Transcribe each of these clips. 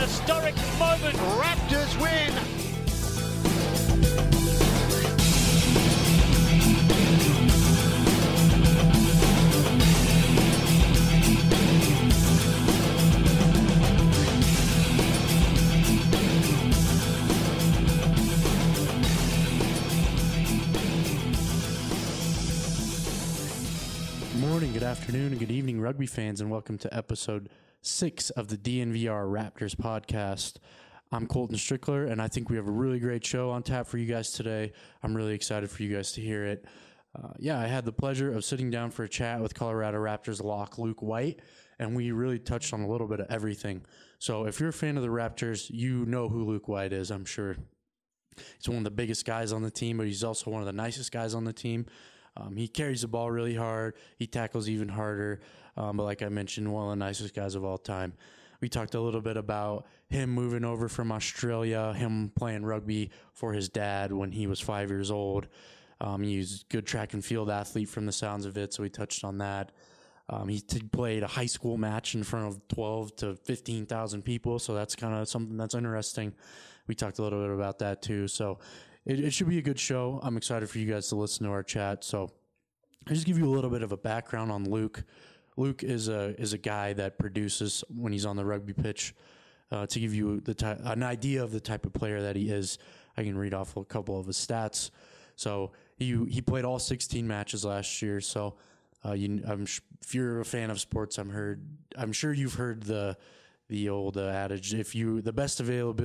historic moment. Raptors win. Good morning, good afternoon, and good evening, rugby fans, and welcome to episode 6 of the DNVR Raptors podcast. I'm Colton Strickler, and I think we have a really great show on tap for you guys today. I'm really excited for you guys to hear it. I had the pleasure of sitting down for a chat with Colorado Raptors lock Luke White, and we really touched on a little bit of everything. So if you're a fan of the Raptors, you know who Luke White is, I'm sure. He's one of the biggest guys on the team, but he's also one of the nicest guys on the team. He carries the ball really hard. He tackles even harder. But like I mentioned, one of the nicest guys of all time. We talked a little bit about him moving over from Australia, him playing rugby for his dad when he was 5 years old. He's a good track and field athlete from the sounds of it, so we touched on that. He played a high school match in front of 12 to 15,000 people, so that's kind of something that's interesting. We talked a little bit about that too. So it should be a good show. I'm excited for you guys to listen to our chat. So I'll just give you a little bit of a background on Luke. Luke is a guy that produces when he's on the rugby pitch. To give you an idea of the type of player that he is, I can read off a couple of his stats. So he played all 16 matches last year. So if you're a fan of sports, I'm sure you've heard the old adage: the best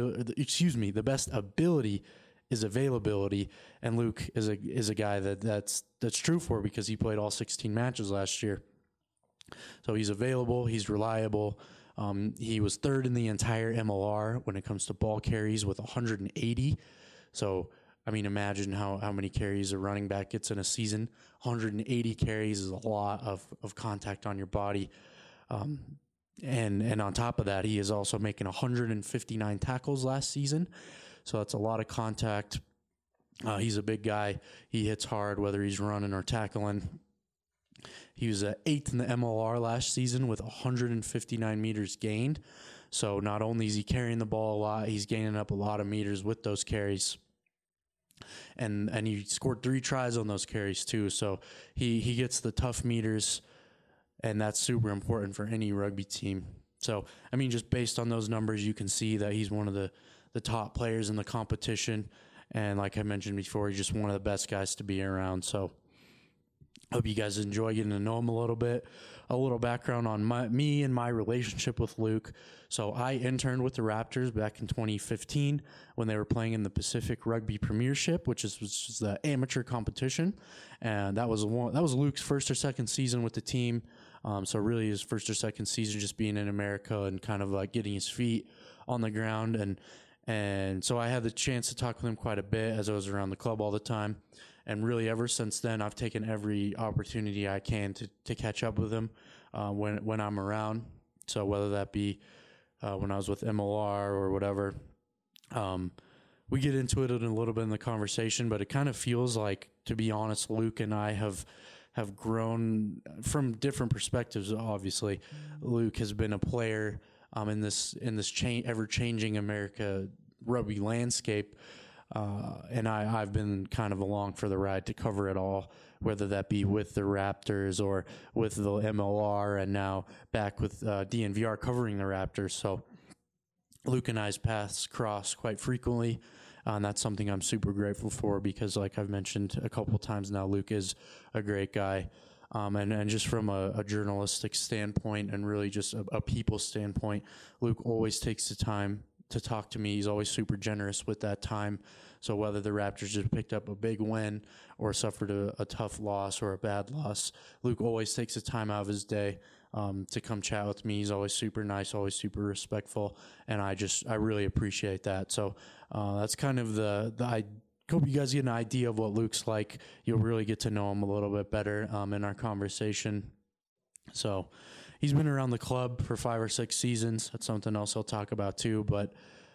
ability is availability, and Luke is a guy that's true for, because he played all 16 matches last year. So he's available, he's reliable. He was third in the entire MLR when it comes to ball carries with 180. So I mean, imagine how many carries a running back gets in a season. 180 carries is a lot of contact on your body. And on top of that, he is also making 159 tackles last season. So that's a lot of contact. He's a big guy. He hits hard, whether he's running or tackling. He was 8th in the MLR last season with 159 meters gained. So not only is he carrying the ball a lot, he's gaining up a lot of meters with those carries. And he scored 3 tries on those carries too. So he gets the tough meters, and that's super important for any rugby team. So, I mean, just based on those numbers, you can see that he's one of the top players in the competition. And like I mentioned before, he's just one of the best guys to be around. So hope you guys enjoy getting to know him a little bit. A little background on me and my relationship with Luke. So I interned with the Raptors back in 2015 when they were playing in the Pacific Rugby Premiership, which is the amateur competition. And that was Luke's first or second season with the team. So really his first or second season just being in America and kind of like getting his feet on the ground. And so I had the chance to talk with him quite a bit as I was around the club all the time. And really ever since then, I've taken every opportunity I can to catch up with him when I'm around. So whether that be when I was with MLR or whatever, we get into it in a little bit in the conversation, but it kind of feels like, to be honest, Luke and I have grown from different perspectives. Obviously, Luke has been a player in this ever-changing America rugby landscape, and I've been kind of along for the ride to cover it all, whether that be with the Raptors or with the MLR, and now back with DNVR covering the Raptors. So Luke and I's paths cross quite frequently, and that's something I'm super grateful for, because like I've mentioned a couple times now, Luke is a great guy. And just from a journalistic standpoint and really just a people standpoint, Luke always takes the time to talk to me. He's always super generous with that time. So whether the Raptors just picked up a big win or suffered a tough loss or a bad loss, Luke always takes the time out of his day to come chat with me. He's always super nice, always super respectful, and I really appreciate that. So that's kind of I hope you guys get an idea of what Luke's like. You'll really get to know him a little bit better in our conversation. So he's been around the club for 5 or 6 seasons. That's something else I'll talk about too. But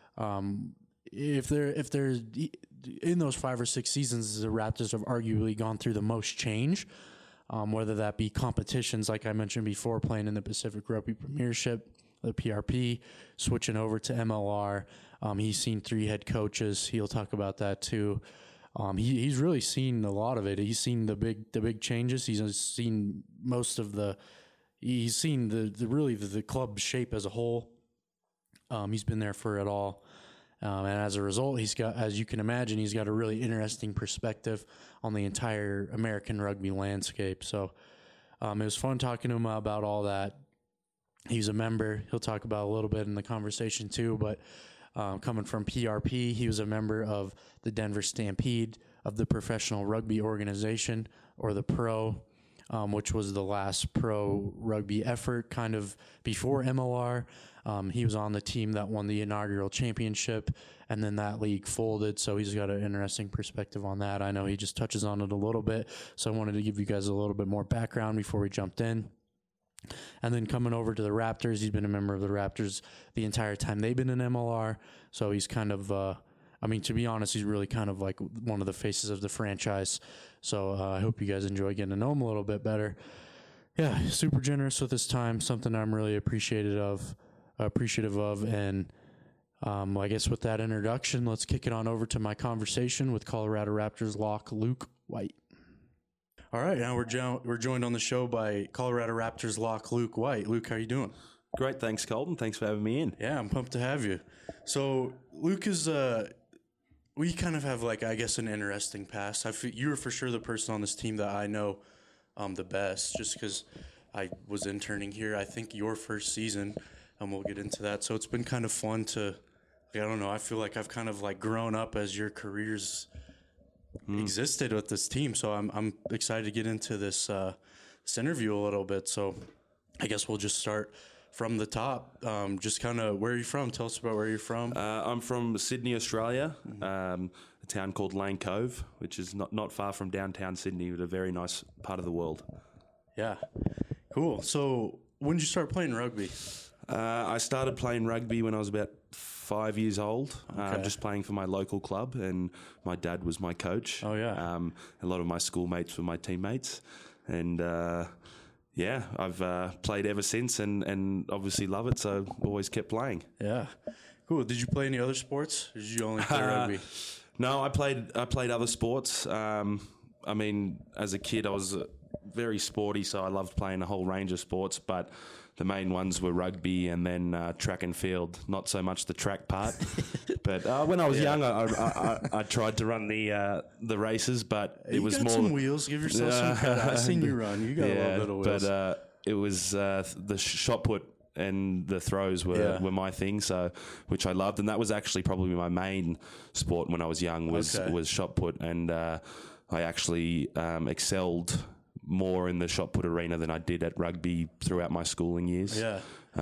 if they're in those 5 or 6 seasons, the Raptors have arguably gone through the most change, whether that be competitions, like I mentioned before, playing in the Pacific Rugby Premiership, the PRP, switching over to MLR. He's seen 3 head coaches. He'll talk about that too. He's really seen a lot of it. He's seen the big changes. He's seen most of the. He's seen the club shape as a whole. He's been there for it all. And as a result, he's got, as you can imagine, he's got a really interesting perspective on the entire American rugby landscape. So it was fun talking to him about all that. He's a member. He'll talk about a little bit in the conversation too, but coming from PRP, he was a member of the Denver Stampede, of the Professional Rugby Organization, or the Pro, which was the last pro rugby effort kind of before MLR. He was on the team that won the inaugural championship, and then that league folded, so he's got an interesting perspective on that. I know he just touches on it a little bit, so I wanted to give you guys a little bit more background before we jumped in. And then coming over to the Raptors, he's been a member of the Raptors the entire time they've been in MLR, so he's kind of, to be honest, he's really kind of like one of the faces of the franchise, so I hope you guys enjoy getting to know him a little bit better. Yeah, super generous with his time, something I'm really appreciative of. And I guess with that introduction, let's kick it on over to my conversation with Colorado Raptors lock Luke White. All right, now we're joined on the show by Colorado Raptors lock Luke White. Luke, how you doing? Great, thanks, Colton. Thanks for having me in. Yeah, I'm pumped to have you. So Luke is we kind of have an interesting past. You were for sure the person on this team that I know the best, just because I was interning here. I think your first season. And we'll get into that. So it's been kind of fun to, I feel like I've kind of grown up as your careers existed with this team. So I'm excited to get into this interview a little bit. So I guess we'll just start from the top. Just kind of, where are you from? Tell us about where you're from. I'm from Sydney, Australia, a town called Lane Cove, which is not far from downtown Sydney, but a very nice part of the world. Yeah, cool. So when did you start playing rugby? I started playing rugby when I was about 5 years old, just playing for my local club, and my dad was my coach. Oh, yeah. A lot of my schoolmates were my teammates, and I've played ever since and obviously love it, so always kept playing. Yeah. Cool. Did you play any other sports, or did you only play rugby? No, I played other sports. As a kid, I was very sporty, so I loved playing a whole range of sports, but the main ones were rugby and then track and field. Not so much the track part, but when I was young, I tried to run the races, but it was more. You got some wheels. Give yourself some credit. I seen you run. You got a little bit of wheels. But it was the shot put and the throws were my thing. So which I loved, and that was actually probably my main sport when I was young was shot put, and I actually excelled more in the shot put arena than I did at rugby throughout my schooling years. Yeah.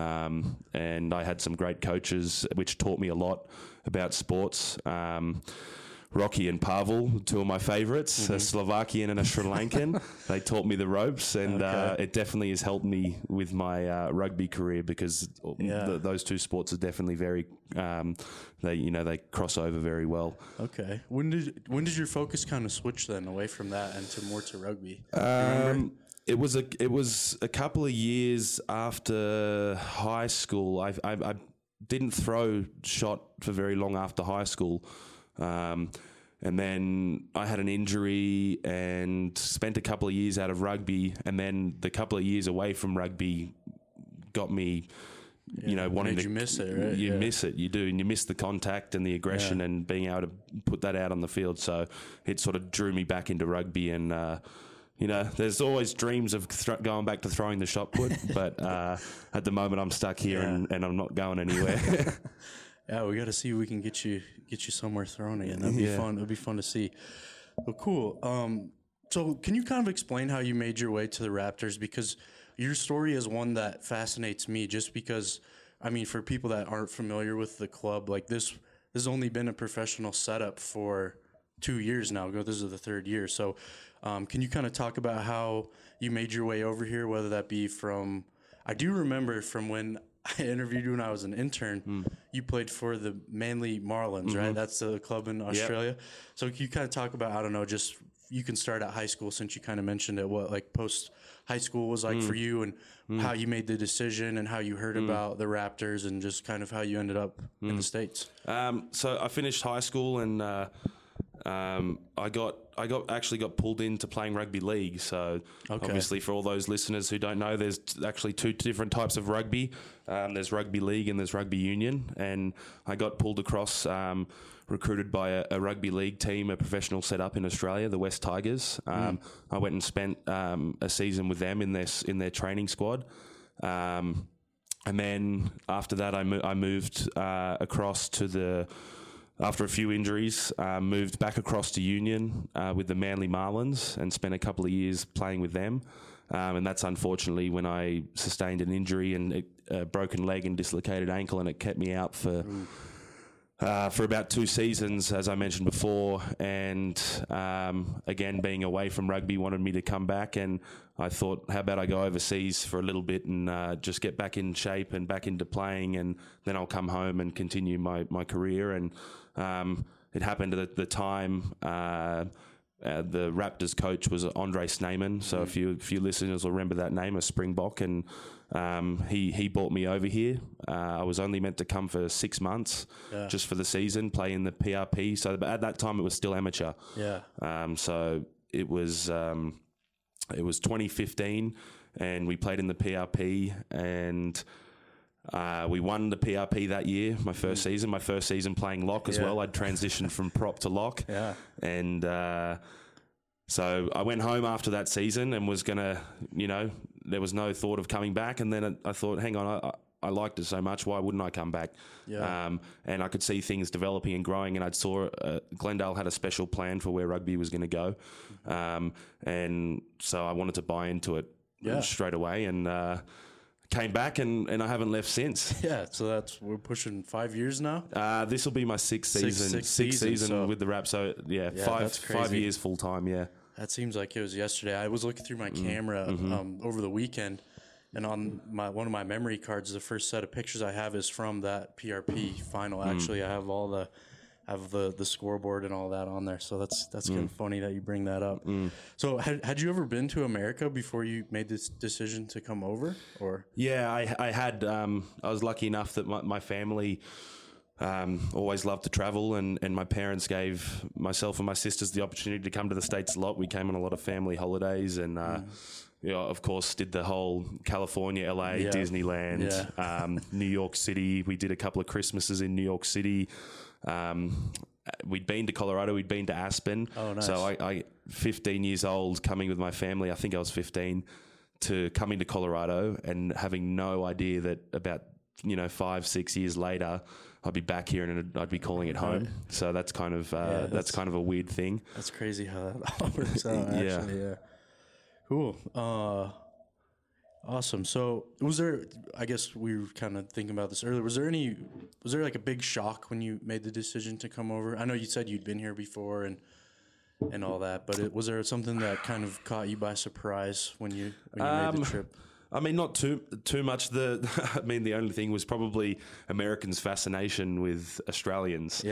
And I had some great coaches which taught me a lot about sports. Rocky and Pavel, two of my favorites, a Slovakian and a Sri Lankan. They taught me the ropes, and it definitely has helped me with my rugby career because those two sports are definitely very, they cross over very well. Okay. When did your focus kind of switch then away from that and more to rugby? It was a couple of years after high school. I didn't throw shot for very long after high school. And then I had an injury and spent a couple of years out of rugby, and then the couple of years away from rugby got me, wanting to. You miss it, right? You miss it, you do, and you miss the contact and the aggression and being able to put that out on the field. So it sort of drew me back into rugby, and there's always dreams of going back to throwing the shot put, but at the moment I'm stuck here and I'm not going anywhere. Yeah, we got to see if we can get you somewhere thrown again. That'd be fun. It'd be fun to see. Well, cool. So can you kind of explain how you made your way to the Raptors? Because your story is one that fascinates me, just because, for people that aren't familiar with the club, this has only been a professional setup for 2 years now. This is the third year. So can you kind of talk about how you made your way over here, whether that be from, I do remember from when I interviewed you when I was an intern, you played for the Manly Marlins, right? That's the club in Australia. Yep. So can you kind of talk about, just you can start at high school, since you kind of mentioned it, what like post high school was like for you, and how you made the decision, and how you heard about the Raptors, and just kind of how you ended up in the States. So I finished high school, and I got pulled into playing rugby league. So obviously, for all those listeners who don't know, there's actually two different types of rugby. There's rugby league and there's rugby union, and I got pulled across, recruited by a rugby league team, a professional setup in Australia, the West Tigers. I went and spent a season with them in their training squad. And then after that, I moved across to after a few injuries, moved back across to Union with the Manly Marlins and spent a couple of years playing with them. And that's unfortunately when I sustained an injury and a broken leg and dislocated ankle, and it kept me out for about 2 seasons, as I mentioned before. And again, being away from rugby, wanted me to come back, and I thought, how about I go overseas for a little bit and just get back in shape and back into playing, and then I'll come home and continue my career. And it happened at the time. The Raptors coach was Andre Snyman, so if you listeners will remember that name, a Springbok, and he brought me over here. I was only meant to come for 6 months, just for the season, play in the PRP. So at that time, it was still amateur. So it was 2015, and we played in the PRP, and we won the PRP that year, my first season playing lock as well. I'd transitioned from prop to lock. And so I went home after that season and was going to, there was no thought of coming back. And then I thought, hang on, I liked it so much, why wouldn't I come back? And I could see things developing and growing, and I saw Glendale had a special plan for where rugby was going to go. And so I wanted to buy into it straight away, and came back, and I haven't left since. So we're pushing 5 years now. This will be my sixth season with the Rap. So 5 years full time. That seems like it was yesterday. I was looking through my camera over the weekend, and on one of my memory cards, the first set of pictures I have is from that PRP final. Actually, I have all the scoreboard and all that on there. So that's kind of funny that you bring that up. So had you ever been to America before you made this decision to come over? Or I had. I was lucky enough that my family always loved to travel, and my parents gave myself and my sisters the opportunity to come to the States a lot. We came on a lot of family holidays, and of course, did the whole California, LA, Disneyland, New York City. We did a couple of Christmases in New York City. We'd been to Colorado, we'd been to Aspen. Oh, nice. So I 15 years old, coming with my family, I think I was 15, to coming to Colorado and having no idea that about 5-6 years later I'd be back here and I'd be calling it home. So that's kind of that's kind of a weird thing. That's crazy how that all works out. Actually, cool. Awesome. So was there, I guess we were kind of thinking about this earlier, was there like a big shock when you made the decision to come over? I know you said you'd been here before and all that, but was there something that kind of caught you by surprise when you made the trip? I mean, not too much. I mean, the only thing was probably Americans' fascination with Australians.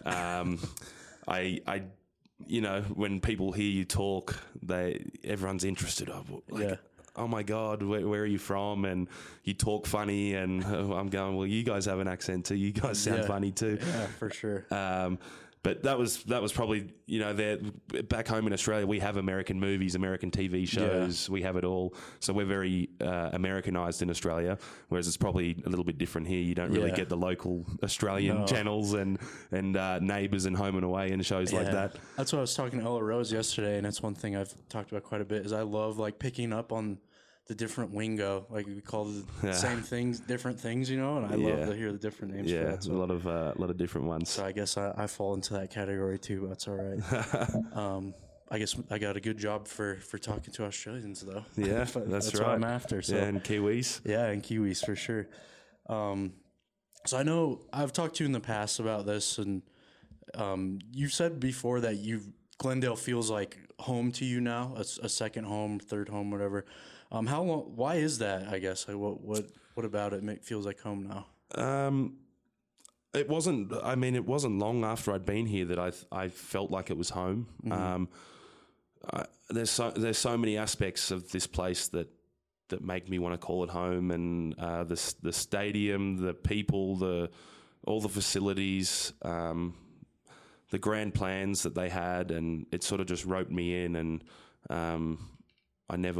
When people hear you talk, everyone's interested. Oh my God, where are you from? And you talk funny, and I'm going, well, you guys have an accent too. You guys sound funny too. Yeah, for sure. But that was probably, there back home in Australia, we have American movies, American TV shows, we have it all. So we're very Americanized in Australia, whereas it's probably a little bit different here. You don't really get the local Australian channels and Neighbours and Home and Away and shows like that. That's what I was talking to Ella Rose yesterday, and it's one thing I've talked about quite a bit, is I love like picking up on the different lingo, like we call the same things, different things, and I love to hear the different names. Yeah, for that, so. a lot of different ones. So I guess I fall into that category too. But that's all right. I guess I got a good job for talking to Australians though. Yeah, that's right. What I'm after. So. Yeah, and Kiwis. Yeah, and Kiwis for sure. So I know I've talked to you in the past about this, and you've said before that Glendale feels like home to you now, a second home, third home, whatever. How long? Why is that? I guess. Like, what about it feels like home now? It wasn't. I mean, it wasn't long after I'd been here that I felt like it was home. there's so many aspects of this place that make me want to call it home, and the stadium, the people, all the facilities, the grand plans that they had, and it sort of just roped me in, and I never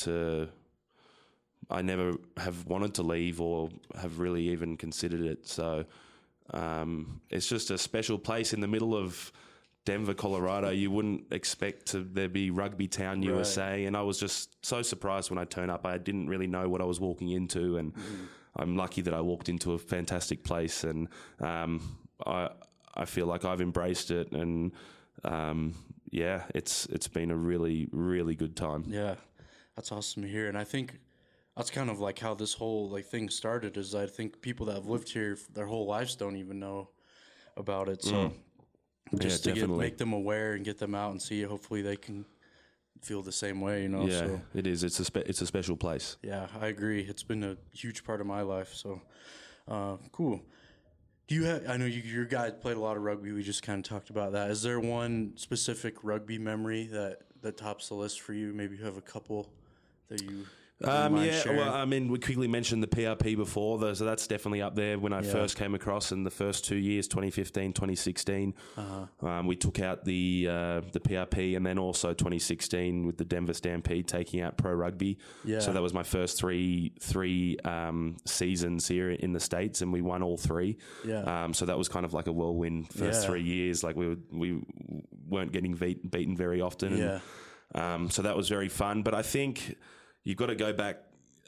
have wanted to leave or have really even considered it. So it's just a special place in the middle of Denver, Colorado. You wouldn't expect there be Rugby Town, USA, and I was just so surprised when I turned up. I didn't really know what I was walking into, and I'm lucky that I walked into a fantastic place, and I feel like I've embraced it, and it's been a really, really good time. Yeah, that's awesome to hear, and I think that's kind of like how this whole thing started. Is I think people that have lived here their whole lives don't even know about it, so. Just to make them aware and get them out and see, hopefully they can feel the same way, you know. Yeah, so, it is. It's a special place. Yeah, I agree. It's been a huge part of my life. So, cool. Do you have? I know your guy played a lot of rugby. We just kind of talked about that. Is there one specific rugby memory that tops the list for you? Maybe you have a couple that you. Sharing? Well, I mean, we quickly mentioned the PRP before, so that's definitely up there. When I first came across in the first 2 years, 2015, 2016, we took out the PRP, and then also 2016 with the Denver Stampede taking out pro rugby. Yeah. So that was my first three seasons here in the States, and we won all three. Yeah. So that was kind of like a whirlwind first 3 years. Like we weren't getting beaten very often. Yeah. And, so that was very fun. But I think you've got to go back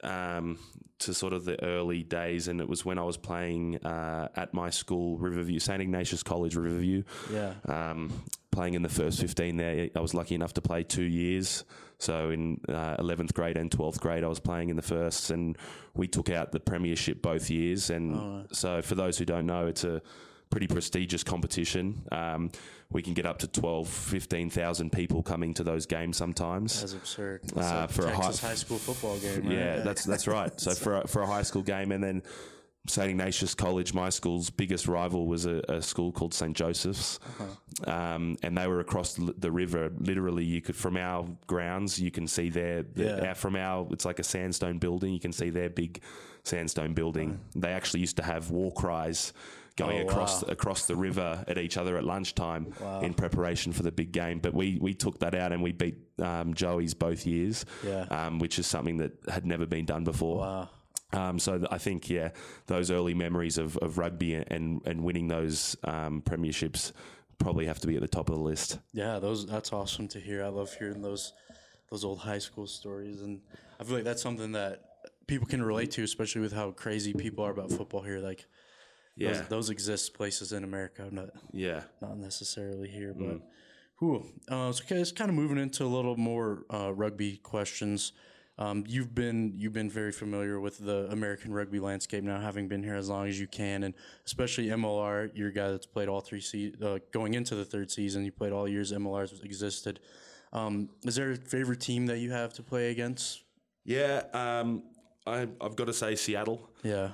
to sort of the early days, and it was when I was playing at my school, Riverview, St. Ignatius College, Riverview. Yeah. Playing in the first 15 there. I was lucky enough to play 2 years. So in 11th grade and 12th grade, I was playing in the firsts, and we took out the premiership both years. And so for those who don't know, it's a pretty prestigious competition. We can get up to 15,000 people coming to those games sometimes. That's absurd. That's for Texas high school football game, right? Yeah, that's right. So for a high school game, and then St. Ignatius College, my school's biggest rival was a school called St. Joseph's, and they were across the river. Literally, you could, from our grounds, you can see it's like a sandstone building. You can see their big sandstone building. They actually used to have war cries going across the river at each other at lunchtime in preparation for the big game. But we took that out, and we beat Joey's both years, which is something that had never been done before. Wow. So I think, those early memories of rugby and winning those premierships probably have to be at the top of the list. Yeah, that's awesome to hear. I love hearing those old high school stories, and I feel like that's something that people can relate to, especially with how crazy people are about football here. Like, those exist places in America, not necessarily here, but cool. So it's kind of moving into a little more rugby questions. You've been very familiar with the American rugby landscape now, having been here as long as you can, and especially MLR. You're a guy that's played all three going into the third season. You played all years MLR's existed. Is there a favorite team that you have to play against? Yeah, I've got to say Seattle. Yeah.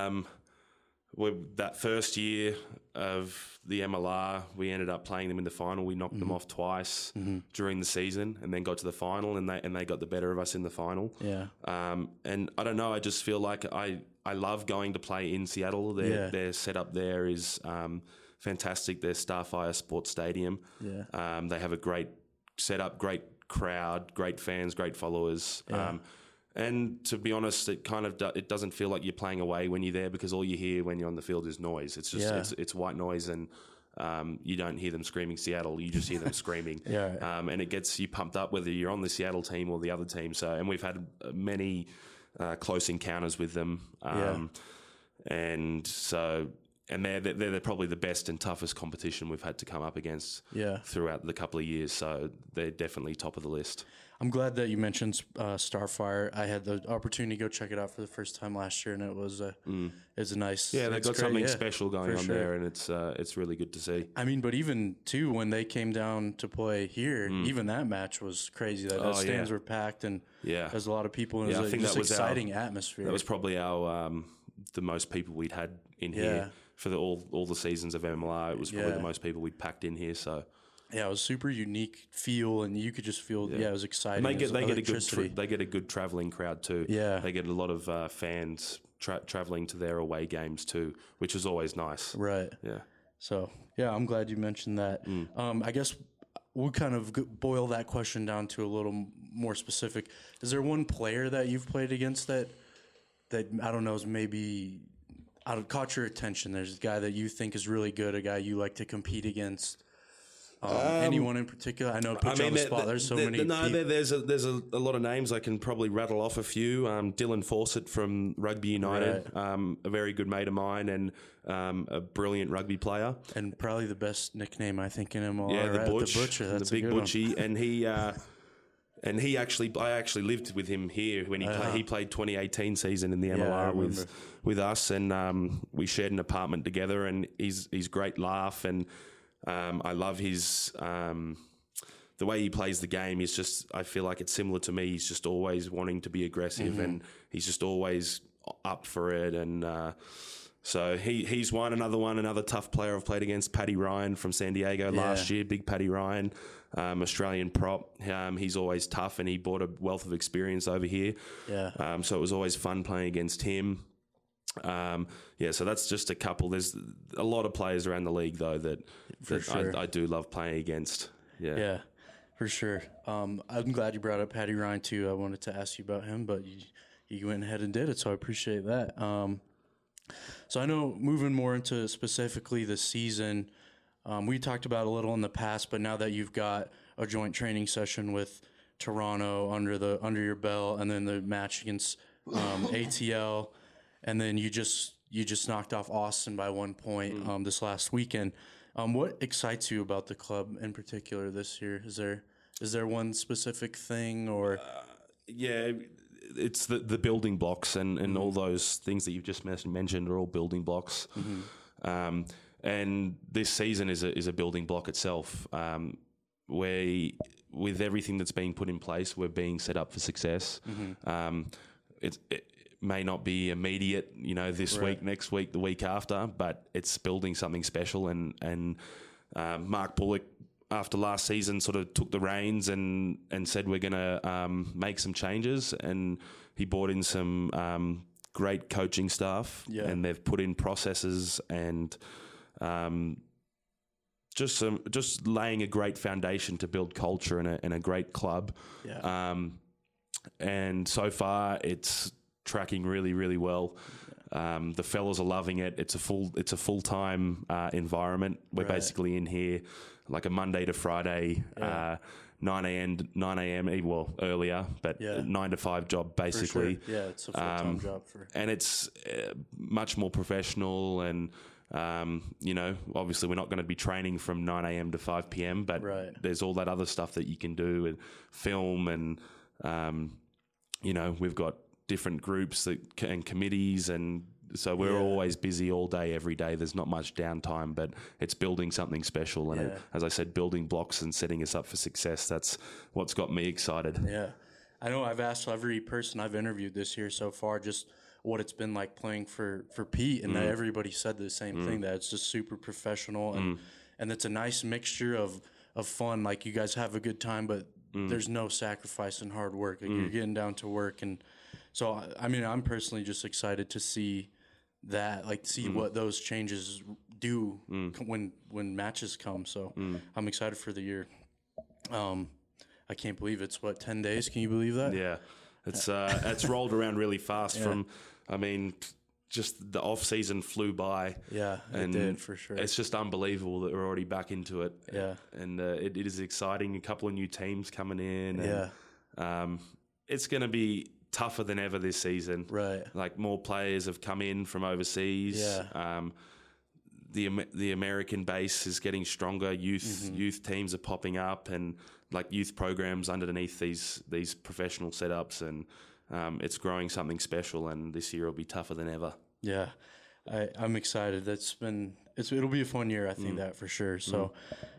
That first year of the MLR, we ended up playing them in the final. We knocked them off twice during the season, and then got to the final, and they got the better of us in the final. Yeah. And I don't know. I just feel like I love going to play in Seattle. Their setup there is fantastic. Their Starfire Sports Stadium. Yeah. They have a great setup, great crowd, great fans, great followers. Yeah. And to be honest, it kind of it doesn't feel like you're playing away when you're there, because all you hear when you're on the field is noise. It's just it's white noise, and you don't hear them screaming Seattle. You just hear them screaming. And it gets you pumped up whether you're on the Seattle team or the other team. So, and we've had many close encounters with them. And so, and they're probably the best and toughest competition we've had to come up against throughout the couple of years. So they're definitely top of the list. I'm glad that you mentioned Starfire. I had the opportunity to go check it out for the first time last year, and it was a nice. Yeah, they've got something special going on there, and it's really good to see. I mean, but even too, when they came down to play here, even that match was crazy. The stands were packed, and there's a lot of people, and it was an exciting atmosphere. That was probably our the most people we'd had in here for all the seasons of MLR. It was probably the most people we'd packed in here. So. Yeah, it was super unique feel, and you could just feel. Yeah, it was exciting. And they they get a good traveling crowd too. Yeah, they get a lot of fans traveling to their away games too, which is always nice. Right. Yeah. So yeah, I'm glad you mentioned that. I guess we'll kind of boil that question down to a little more specific. Is there one player that you've played against that I don't know is maybe caught your attention? There's a guy that you think is really good, a guy you like to compete against. Anyone in particular? I know put you on the spot. There's so many. No, there's a lot of names. I can probably rattle off a few. Dylan Fawcett from Rugby United, a very good mate of mine, and a brilliant rugby player. And probably the best nickname I think in him all. Yeah, right? the Butcher. That's the big Butchie, one. and I actually lived with him here when he played 2018 season in the MLR with us, and we shared an apartment together. And he's great laugh, and I love his the way he plays the game. Is just, I feel like it's similar to me. He's just always wanting to be aggressive, and he's just always up for it. And so he's another tough player I've played against, Paddy Ryan from San Diego last year. Big Paddy Ryan. Australian prop. He's always tough, and he brought a wealth of experience over here. Yeah. So it was always fun playing against him. So that's just a couple. There's a lot of players around the league though that sure. I do love playing against. Yeah, for sure. I'm glad you brought up Paddy Ryan too. I wanted to ask you about him, but you went ahead and did it, so I appreciate that. So I know moving more into specifically the season. We talked about a little in the past, but now that you've got a joint training session with Toronto under your belt, and then the match against ATL, and then you just knocked off Austin by 1 point this last weekend. What excites you about the club in particular this year? Is there one specific thing or? It's the building blocks and all those things that you've just mentioned are all building blocks. And this season is a building block itself. With everything that's being put in place, we're being set up for success. It may not be immediate, this week, next week, the week after, but it's building something special. And Mark Bullock, after last season, sort of took the reins and said we're going to make some changes, and he brought in some great coaching staff, and they've put in processes and just laying a great foundation to build culture in a great club. And so far it's tracking really, really well. The fellas are loving it. It's a full-time environment. We're basically in here like a Monday to Friday, 9 a.m. Well, earlier, but 9 to 5 job basically. Sure. Yeah, it's a full-time job and it's much more professional. And obviously we're not going to be training from 9 a.m. to 5 p.m. But there's all that other stuff that you can do and film, and we've got different groups and committees, and so we're always busy all day, every day. There's not much downtime, but it's building something special. And as I said, building blocks and setting us up for success. That's what's got me excited. Yeah. I know I've asked every person I've interviewed this year so far just what it's been like playing for Pete, and everybody said the same thing, that it's just super professional, and it's a nice mixture of fun. Like, you guys have a good time, but there's no sacrifice and hard work. Like, you're getting down to work. And so, I mean, I'm personally just excited to see that, like, see what those changes do when matches come. So I'm excited for the year. I can't believe it's 10 days. Can you believe that? Yeah. It's rolled around really fast just the off season flew by. Yeah, it did for sure. It's just unbelievable that we're already back into it. Yeah. And it is exciting. A couple of new teams coming in. And, it's going to be tougher than ever this season. Right. Like, more players have come in from overseas. Yeah. The American base is getting stronger. Youth teams are popping up, and like youth programs underneath these professional setups, and it's growing something special. And this year will be tougher than ever. Yeah, I'm excited. It'll be a fun year. I think that for sure. So,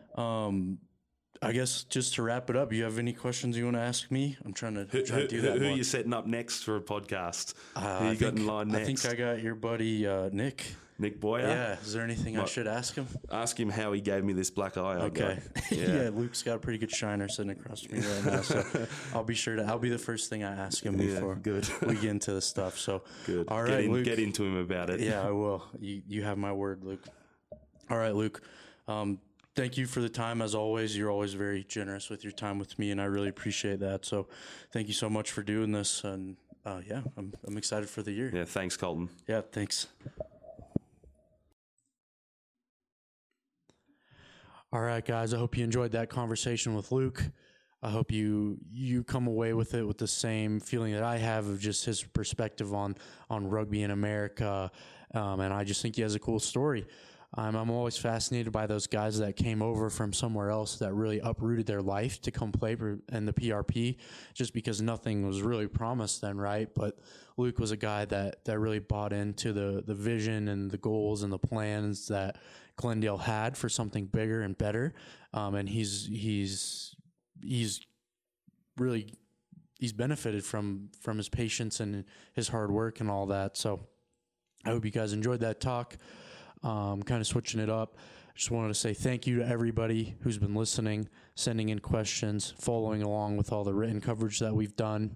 I guess just to wrap it up, you have any questions you want to ask me? I'm trying to do that. Who are you setting up next for a podcast? Who you got in line next? I think I got your buddy Nick. Nick Boyer. Yeah. Is there anything I should ask him? Ask him how he gave me this black eye. Okay. Yeah. Luke's got a pretty good shiner sitting across from me right now, so I'll be the first thing I ask him before good. we get into the stuff. So Good. All right, Luke. Get into him about it. Yeah, I will. You have my word, Luke. All right, Luke. Thank you for the time, as always. You're always very generous with your time with me, and I really appreciate that. So thank you so much for doing this. And yeah, I'm excited for the year. Yeah, thanks, Colton. Yeah, thanks. All right, guys. I hope you enjoyed that conversation with Luke. I hope you come away with it with the same feeling that I have of just his perspective on rugby in America. And I just think he has a cool story. I'm always fascinated by those guys that came over from somewhere else that really uprooted their life to come play in the PRP, just because nothing was really promised then, right? But Luke was a guy that really bought into the vision and the goals and the plans that Glendale had for something bigger and better. And he's benefited from his patience and his hard work and all that. So I hope you guys enjoyed that talk. Kind of switching it up. Just wanted to say thank you to everybody who's been listening, sending in questions, following along with all the written coverage that we've done.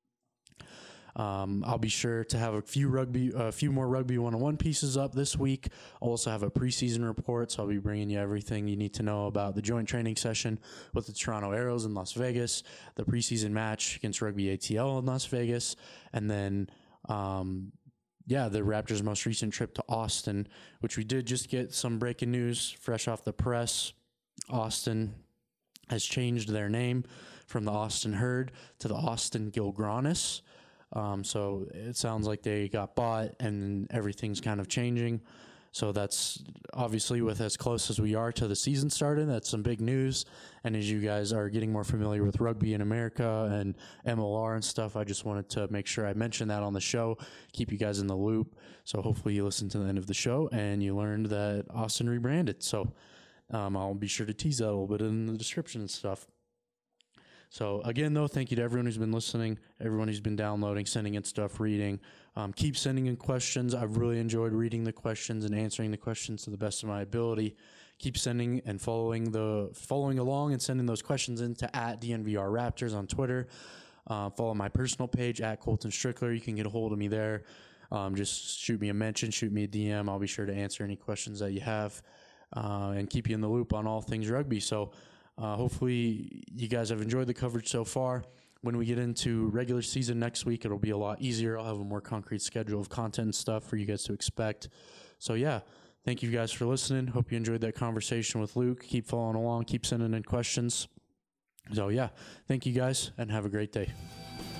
I'll be sure to have a few more rugby 101 pieces up this week. I'll also have a preseason report, so I'll be bringing you everything you need to know about the joint training session with the Toronto Arrows in Las Vegas, the preseason match against Rugby ATL in Las Vegas, and then the Raptors' most recent trip to Austin, which we did just get some breaking news fresh off the press. Austin has changed their name from the Austin Herd to the Austin Gilgronis. So it sounds like they got bought and everything's kind of changing. So that's obviously, with as close as we are to the season starting, that's some big news. And as you guys are getting more familiar with rugby in America and MLR and stuff, I just wanted to make sure I mentioned that on the show, keep you guys in the loop. So hopefully you listened to the end of the show and you learned that Austin rebranded. So I'll be sure to tease that a little bit in the description and stuff. So again, though, thank you to everyone who's been listening, everyone who's been downloading, sending in stuff, reading. Keep sending in questions. I've really enjoyed reading the questions and answering the questions to the best of my ability. Keep sending and following along and sending those questions into @DNVR Raptors on Twitter. Follow my personal page @Colton Strickler. You can get a hold of me there. Just shoot me a mention, shoot me a DM. I'll be sure to answer any questions that you have and keep you in the loop on all things rugby. So hopefully you guys have enjoyed the coverage so far. When we get into regular season next week, it'll be a lot easier. I'll have a more concrete schedule of content and stuff for you guys to expect. So yeah, thank you guys for listening. Hope you enjoyed that conversation with Luke. Keep following along, keep sending in questions. So yeah, thank you guys and have a great day.